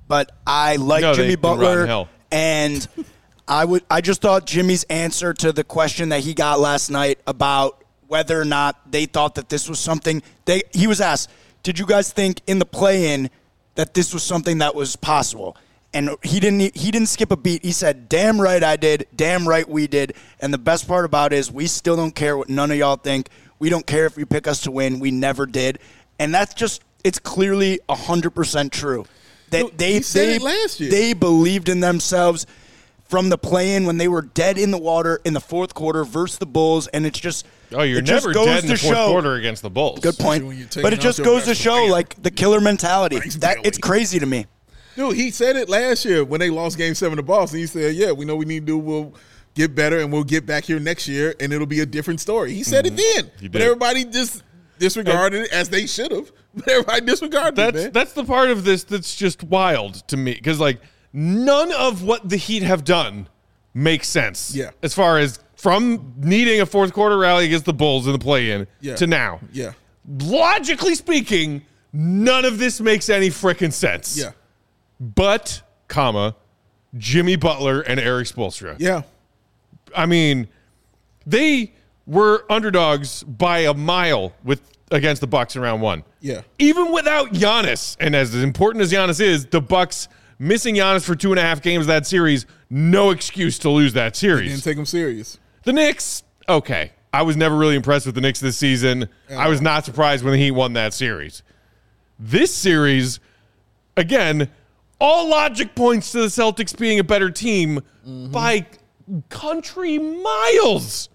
but I like No, Jimmy they've been rotten Butler, hell. and I would. I just thought Jimmy's answer to the question that he got last night about whether or not they thought that this was something they. He was asked, "Did you guys think in the play-in that this was something that was possible?" And he didn't. He didn't skip a beat. He said, "Damn right I did. Damn right we did." And the best part about it is we still don't care what none of y'all think. We don't care if you pick us to win. We never did. And that's just. It's clearly one hundred percent true. That No, they he said they it last year. they believed in themselves from the play-in when they were dead in the water in the fourth quarter versus the Bulls, and it's just Oh, you're it just never goes dead in the to fourth show- quarter against the Bulls. Good point. when you're taking But it out just your goes to best show player. like the killer mentality. Thanks, That Bailey. it's crazy to me. Dude, he said it last year when they lost Game Seven to Boston. He said, "Yeah, we know we need to do. We'll get better, and we'll get back here next year, and it'll be a different story." He said Mm-hmm. it then, He but did. everybody just disregarded it as they should have. But everybody disregarded That's it, man. that's the part of this that's just wild to me because like none of what the Heat have done makes sense. Yeah. As far as from needing a fourth quarter rally against the Bulls in the play-in Yeah. to now. Yeah, Logically speaking, none of this makes any frickin' sense. yeah, But, comma, Jimmy Butler and Eric Spoelstra. yeah. I mean, they were underdogs by a mile with against the Bucks in round one. Yeah. Even without Giannis, and as important as Giannis is, the Bucks missing Giannis for two and a half games of that series, no excuse to lose that series. Didn't take him serious. The Knicks, okay. I was never really impressed with the Knicks this season. I was not surprised when the Heat won that series. This series, again, all logic points to the Celtics being a better team by country miles.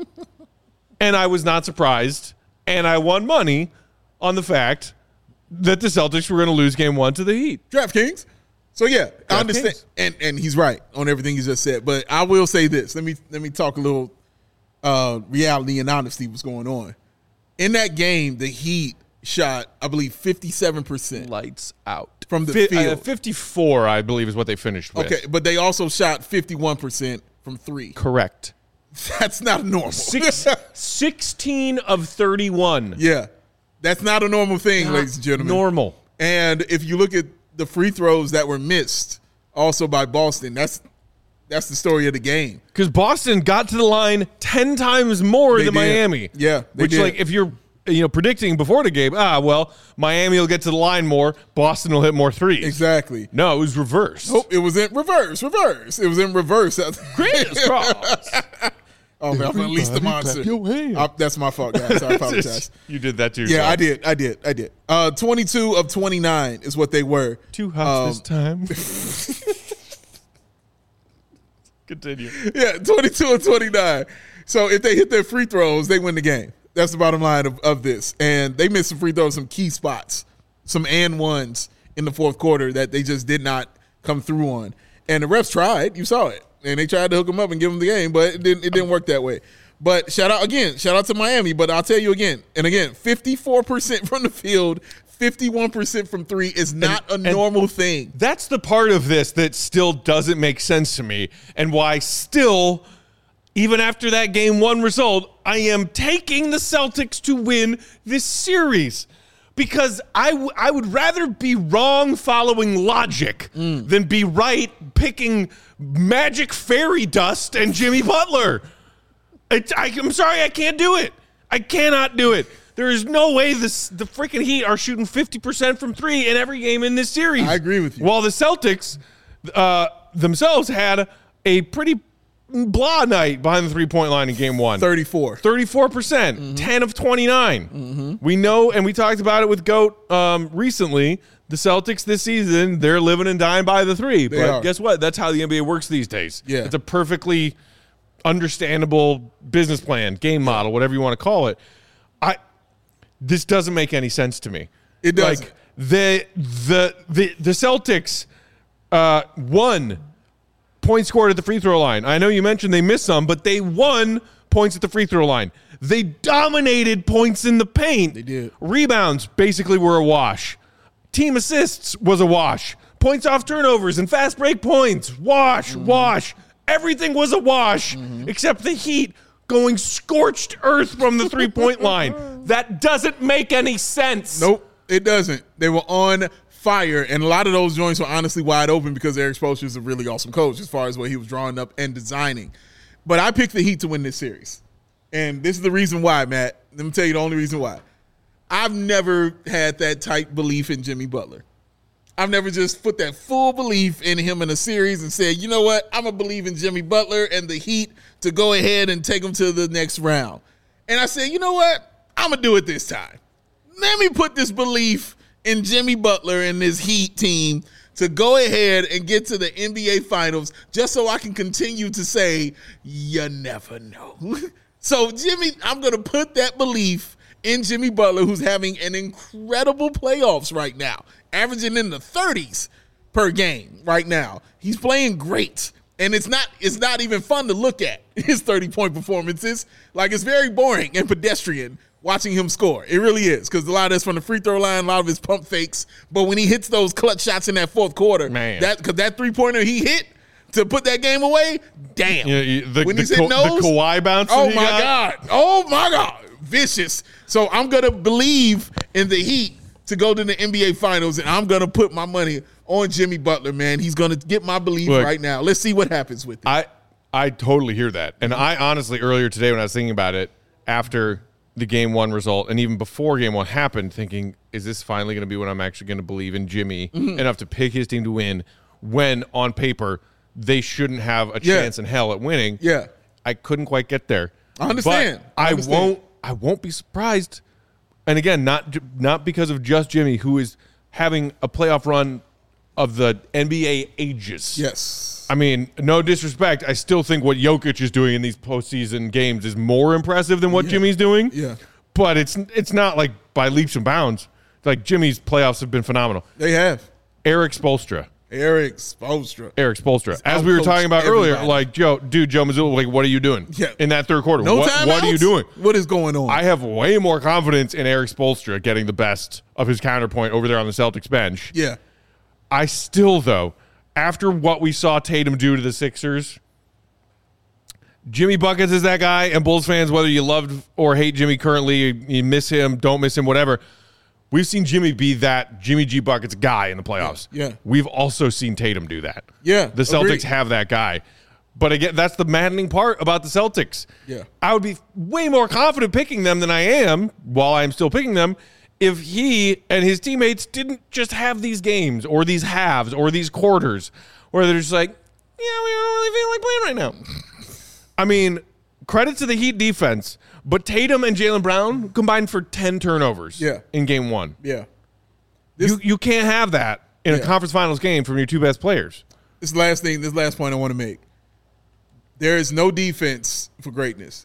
And I was not surprised. And I won money on the fact that the Celtics were going to lose game one to the Heat. DraftKings. So yeah, I understand, DraftKings. and and he's right on everything he just said. But I will say this: let me let me talk a little uh, reality and honesty. What's going on in that game? The Heat shot, I believe, fifty-seven percent Lights out. from the Fi- field. uh, fifty-four, I believe, is what they finished with. Okay, but they also shot fifty-one percent from three. Correct. That's not normal. Six, sixteen of thirty-one. Yeah, that's not a normal thing, ladies and gentlemen. Normal. And if you look at the free throws that were missed, also by Boston, that's that's the story of the game. Because Boston got to the line ten times more They than did. Miami. Yeah, they Which, did. like, if you're you know predicting before the game, ah, well, Miami will get to the line more, Boston will hit more threes. Exactly. No, it was reversed. Oh, it was in reverse, reverse. It was in reverse. Greatest cross. Oh man, I'm unleashed the monster. clap your hands. Uh, that's my fault, guys. I apologize. You did that too. Yeah, I did. I did. I did. Uh, twenty-two of twenty-nine is what they were. Two hops Um, this time. Continue. Yeah, twenty-two of twenty-nine. So if they hit their free throws, they win the game. That's the bottom line of, of this. And they missed some free throws, some key spots, some and ones in the fourth quarter that they just did not come through on. And the refs tried. You saw it. And they tried to hook them up and give them the game, but it didn't, it didn't work that way. But shout out again, shout out to Miami. But I'll tell you again, and again, fifty-four percent from the field, fifty-one percent from three is not And- a and- normal thing. That's the part of this that still doesn't make sense to me, and why still, even after that game one result, I am taking the Celtics to win this series. Because I, w- I would rather be wrong following logic than be right picking magic fairy dust and Jimmy Butler. It's, I, I'm sorry, I can't do it. I cannot do it. There is no way this, the freaking Heat are shooting fifty percent from three in every game in this series. I agree with you. While the Celtics uh, themselves had a pretty blah night behind the three-point line in game one. thirty-four. thirty-four percent, Mm-hmm. ten of twenty-nine. We know, and we talked about it with GOAT um, recently, the Celtics this season, they're living and dying by the three. They but are. guess what? That's how the N B A works these days. Yeah. It's a perfectly understandable business plan, game model, whatever you want to call it. I This doesn't make any sense to me. It doesn't. Like, the, the, the, the Celtics uh, won points scored at the free throw line. I know you mentioned they missed some, but they won points at the free throw line. They dominated points in the paint. They did. Rebounds basically were a wash. Team assists was a wash. Points off turnovers and fast break points, wash, Mm-hmm. wash. Everything was a wash except the Heat going scorched earth from the three-point line. That doesn't make any sense. Nope. It doesn't. They were on fire, and a lot of those joints were honestly wide open because Eric Spoelstra is a really awesome coach as far as what he was drawing up and designing. But I picked the Heat to win this series. And this is the reason why, Matt. Let me tell you the only reason why. I've never had that type belief in Jimmy Butler. I've never just put that full belief in him in a series and said, you know what, I'm going to believe in Jimmy Butler and the Heat to go ahead and take them to the next round. And I said, you know what, I'm going to do it this time. Let me put this belief in Jimmy Butler and this Heat team to go ahead and get to the N B A Finals just so I can continue to say, you never know. So, Jimmy, I'm going to put that belief in Jimmy Butler, who's having an incredible playoffs right now, averaging in the thirties per game right now. He's playing great, and it's not it's not even fun to look at his thirty-point performances. Like, it's very boring and pedestrian watching him score. It really is, because a lot of that's from the free throw line, a lot of his pump fakes. But when he hits those clutch shots in that fourth quarter, man, that because that three-pointer he hit to put that game away, damn. Yeah, the, when the, he's hitting those, the Kawhi bounce. Oh, he my got. God. Oh, my God. Vicious. So I'm going to believe in the Heat to go to the N B A Finals, and I'm going to put my money on Jimmy Butler, man. He's going to get my belief Look, right now. Let's see what happens with it. I, I totally hear that. And I honestly, earlier today when I was thinking about it, after the game one result, and even before game one happened, thinking, is this finally going to be when I'm actually going to believe in Jimmy mm-hmm. enough to pick his team to win when, on paper, they shouldn't have a yeah. chance in hell at winning? Yeah. I couldn't quite get there. I understand. But I, I understand. won't I won't be surprised. And again, not not because of just Jimmy, who is having a playoff run of the N B A ages. Yes. I mean, no disrespect. I still think what Jokic is doing in these postseason games is more impressive than what yeah. Jimmy's doing. Yeah. But it's it's not like by leaps and bounds. Like, Jimmy's playoffs have been phenomenal. They have. Eric Spoelstra. Eric Spoelstra. Eric Spoelstra. As we were talking about everybody. earlier, like, Joe, dude, Joe Mazzulla, like, what are you doing yeah. in that third quarter? No what, timeouts? What are you doing? What is going on? I have way more confidence in Eric Spoelstra getting the best of his counterpoint over there on the Celtics bench. Yeah. I still, though, after what we saw Tatum do to the Sixers, Jimmy Buckets is that guy, and Bulls fans, whether you love or hate Jimmy currently, you miss him, don't miss him, whatever, we've seen Jimmy be that Jimmy G. Buckets guy in the playoffs. Yeah. yeah. We've also seen Tatum do that. Yeah. The Celtics agreed. have that guy. But again, that's the maddening part about the Celtics. Yeah. I would be way more confident picking them than I am, while I'm still picking them, if he and his teammates didn't just have these games or these halves or these quarters where they're just like, yeah, we don't really feel like playing right now. I mean, credit to the Heat defense, but Tatum and Jaylen Brown combined for ten turnovers yeah. in game one. Yeah. This, you you can't have that in yeah. a conference finals game from your two best players. This last thing, this last point I want to make. There is no defense for greatness.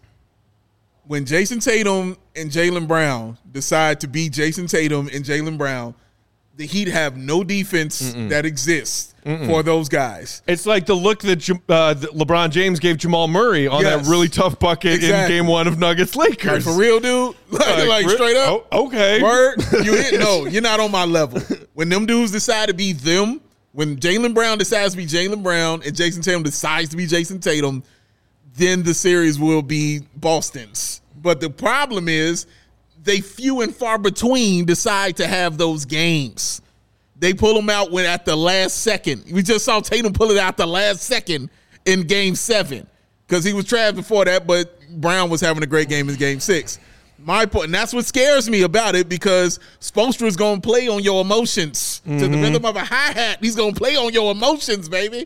When Jason Tatum and Jaylen Brown decide to be Jason Tatum and Jaylen Brown, the Heat have no defense Mm-mm. that exists Mm-mm. for those guys. It's like the look that, uh, that LeBron James gave Jamal Murray on yes. that really tough bucket exactly. in game one of Nuggets Lakers. Like, for real, dude? Like, like, like straight up? Oh, okay. Word? You hit? No, you're not on my level. When them dudes decide to be them, when Jaylen Brown decides to be Jaylen Brown and Jason Tatum decides to be Jason Tatum, then the series will be Boston's. But the problem is they few and far between decide to have those games. They pull them out when at the last second. We just saw Tatum pull it out the last second in game seven because he was trapped before that, but Brown was having a great game in game six. My point, and that's what scares me about it, because Spoelstra is going to play on your emotions. Mm-hmm. To the rhythm of a hi-hat, he's going to play on your emotions, baby.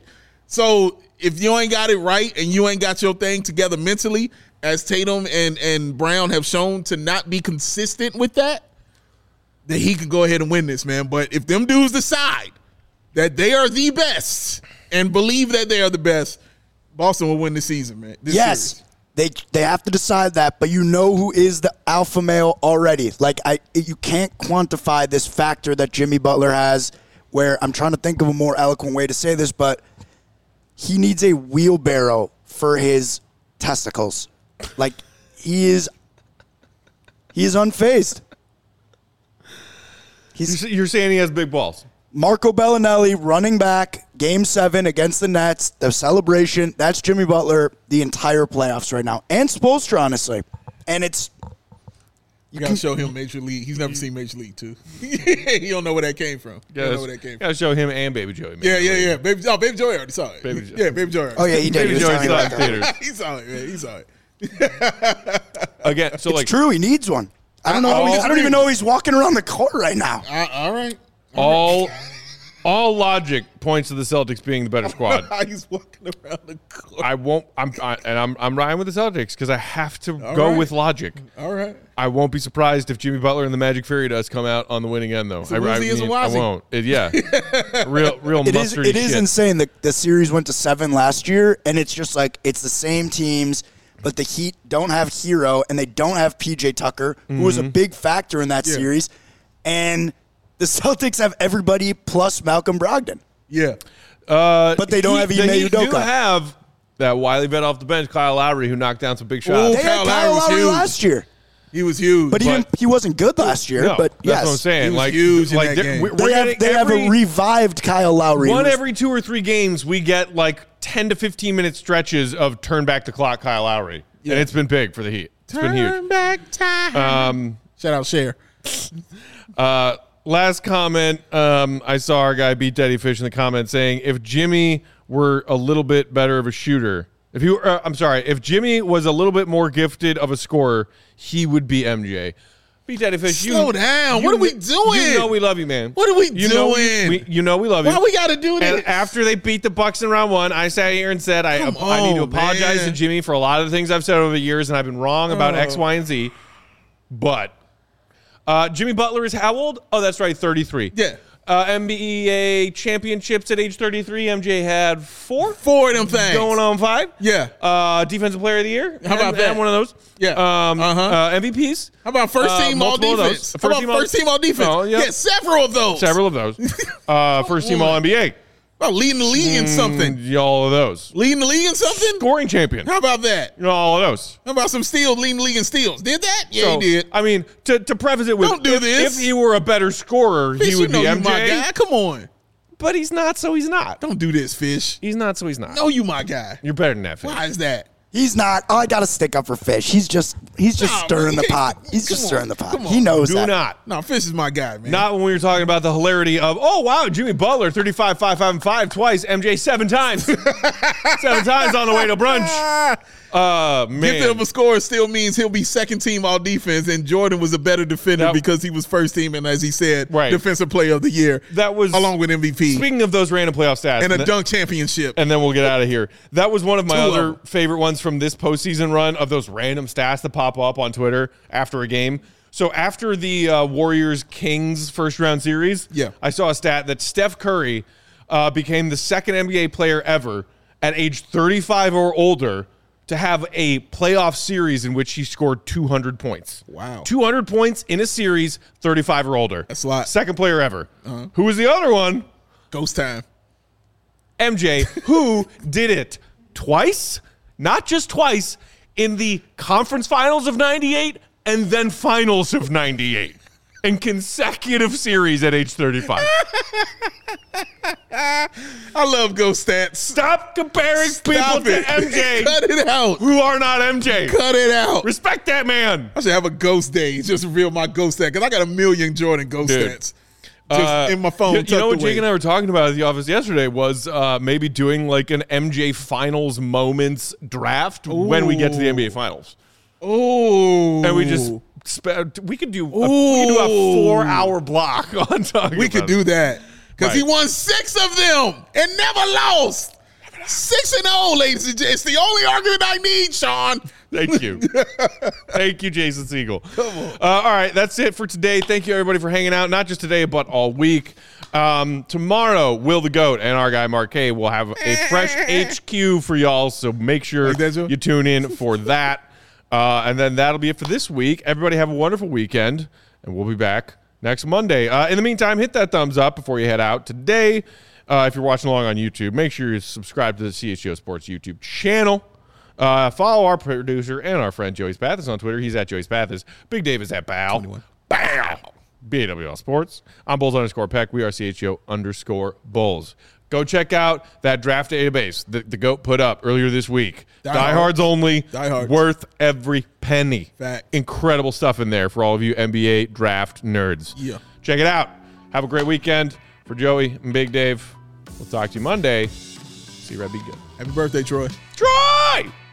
So if you ain't got it right and you ain't got your thing together mentally, as Tatum and, and Brown have shown to not be consistent with that, then he can go ahead and win this, man. But if them dudes decide that they are the best and believe that they are the best, Boston will win the season, man. This yes. series. They they have to decide that, but you know who is the alpha male already. Like, I, you can't quantify this factor that Jimmy Butler has, where I'm trying to think of a more eloquent way to say this, but he needs a wheelbarrow for his testicles. Like, he is he is unfazed. He's, You're saying he has big balls. Marco Bellinelli running back, game seven against the Nets, the celebration. That's Jimmy Butler the entire playoffs right now. And Spoelstra, honestly. And it's You gotta show him Major League. He's never seen Major League too. He don't know where that came from. He don't know where that came from. Gotta show him and Baby Joey. Yeah, yeah, yeah. Baby, oh, Baby Joey already saw it. Baby Joey. Yeah, Baby Joey. Already Oh yeah, he did. Baby He was Joey telling me saw about it in that. theaters. he saw it, man. He saw it. Again, so It's like true. He needs one. I don't know. I- how he- I don't I- even know he's walking around the court right now. Uh, all right. all all logic points to the Celtics being the better squad. He's walking around the court. I won't. I'm I, and I'm I'm riding with the Celtics because I have to go right. with logic. All right. I won't be surprised if Jimmy Butler and the Magic Fairy Dust come out on the winning end, though. a I, I, woozy as a mean, I wazzy. won't. It, yeah, real, real It is. mustardy It is shit. insane. The the series went to seven last year, and it's just like it's the same teams, but the Heat don't have Hero and they don't have P J Tucker, who was a Mm-hmm. big factor in that Yeah. series, and the Celtics have everybody plus Malcolm Brogdon, Yeah. Uh, but they don't he- have the Ime Heat do Udoka. have that wily vet off the bench, Kyle Lowry, who knocked down some big Ooh, shots. They had Kyle Kyle Lowry was Lowry huge. last year, He was huge. but he But- didn't, he wasn't good last year. No, but that's yes, what I'm saying. He was like, huge in like that they're- game. we're, we're they have getting they have every, a revived Kyle Lowry. one who was- every two or three games. We get like ten to fifteen minute stretches of turn back the clock, Kyle Lowry, and it's been big for the Heat. It's been huge. Turn back time. Um, Shout out Cher. Uh, last comment. Um, I saw our guy Beat Daddy Fish in the comments saying if Jimmy were a little bit better of a shooter, if he were, uh, I'm sorry, if Jimmy was a little bit more gifted of a scorer, he would be M J. Beat Daddy Fish, you Slow down. you What are we kn- doing? You know we love you, man. What are we you Know we, doing? we, you know we love you. Why we got to do this? And after they beat the Bucks in round one, I sat here and said I, Come I need to on, apologize man. to Jimmy for a lot of the things I've said over the years, and I've been wrong about Oh. X, Y, and Z. But uh, Jimmy Butler is how old? Oh, that's right, thirty-three. Yeah. Uh, N B A championships at age thirty-three. M J had four. Four of them things. Going on five. Yeah. Uh, Defensive Player of the Year. How about and, that? and one of those. Yeah. Um, Uh-huh. uh, M V Ps. How about first Uh, team all multiple of those. defense? First How about team all- first team all defense? Oh, yeah. yeah, several of those. Several of those. Uh, first team All N B A. About leading the league in something. Mm, all of those. Leading the league in something? Scoring champion. How about that? All of those. How about some steals, leading the league in steals? Did that? Yeah, So, he did. I mean, to, to preface it with, Don't do if, this. if he were a better scorer, Fish, he would you know be you M J. my guy. Come on. But he's not, so he's not. Don't do this, Fish. He's not, so he's not. No, you my guy. You're better than that, Fish. Why is that? He's not. Oh, I got to stick up for Fish. He's just he's just Nah, stirring man. the pot. He's Come just on. stirring the pot. Come on. He knows Do that. not. No, Fish is my guy, man. Not when we were talking about the hilarity of, oh, wow, Jimmy Butler, thirty-five, five, five, and five twice. M J seven times. seven times on the way to brunch. Uh, man. Gifted of a scorer still means he'll be second team all defense, and Jordan was a better defender That- because he was first team and, as he said, Right. defensive player of the year. That was- along with M V P Speaking of those random playoff stats. and a th- dunk championship. and then we'll get out of here. That was one of my Two of other them. favorite ones from this postseason run of those random stats that pop up on Twitter after a game. So after the uh, Warriors-Kings first round series, Yeah. I saw a stat that Steph Curry uh, became the second N B A player ever at age thirty-five or older to have a playoff series in which he scored two hundred points. Wow. two hundred points in a series, thirty-five or older. That's a lot. Second player ever. Who was the other one? Ghost time. M J, who did it twice, not just twice, in the conference finals of ninety-eight and then finals of ninety-eight in consecutive series at age thirty-five. I love ghost stats. Stop comparing Stop people it. to M J Cut it out. who are not M J. Cut it out. Respect that man. I should have a ghost day. Just reveal my ghost stat because I got a million Jordan ghost Dude. stats just Uh, in my phone. You, you know what tucked away. Jake and I were talking about at the office yesterday was uh, maybe doing like an M J finals moments draft when we get to the N B A finals. Oh, And we just spe- we could do a, we could do a four hour block on talking. we about could it. do that because he Right. won six of them and never lost. Six and zero, ladies and gentlemen. It's the only argument I need, Sean. Thank you, thank you, Jason Siegel. Come on. Uh, all right, that's it for today. Thank you everybody for hanging out, not just today but all week. Um, tomorrow, Will the Goat and our guy Mark K will have a fresh H Q for y'all, so make sure Like that, Joe? you tune in for that. Uh, and then that'll be it for this week. Everybody have a wonderful weekend, and we'll be back next Monday. Uh, in the meantime, hit that thumbs up before you head out today. Uh, if you're watching along on YouTube, make sure you subscribe to the C H G O Sports YouTube channel. Uh, follow our producer and our friend Joey Spathis on Twitter. He's at Joey Spathis. Big Dave is at Bow. Bow. B A W L Sports. I'm Bulls underscore Peck. We are C H G O underscore Bulls. Go check out that draft database that the GOAT put up earlier this week. Die Diehards only. Diehards. Worth every penny. Fact. Incredible stuff in there for all of you N B A draft nerds. Yeah. Check it out. Have a great weekend. For Joey and Big Dave, we'll talk to you Monday. See you, Red. Be good. Happy birthday, Troy. Troy!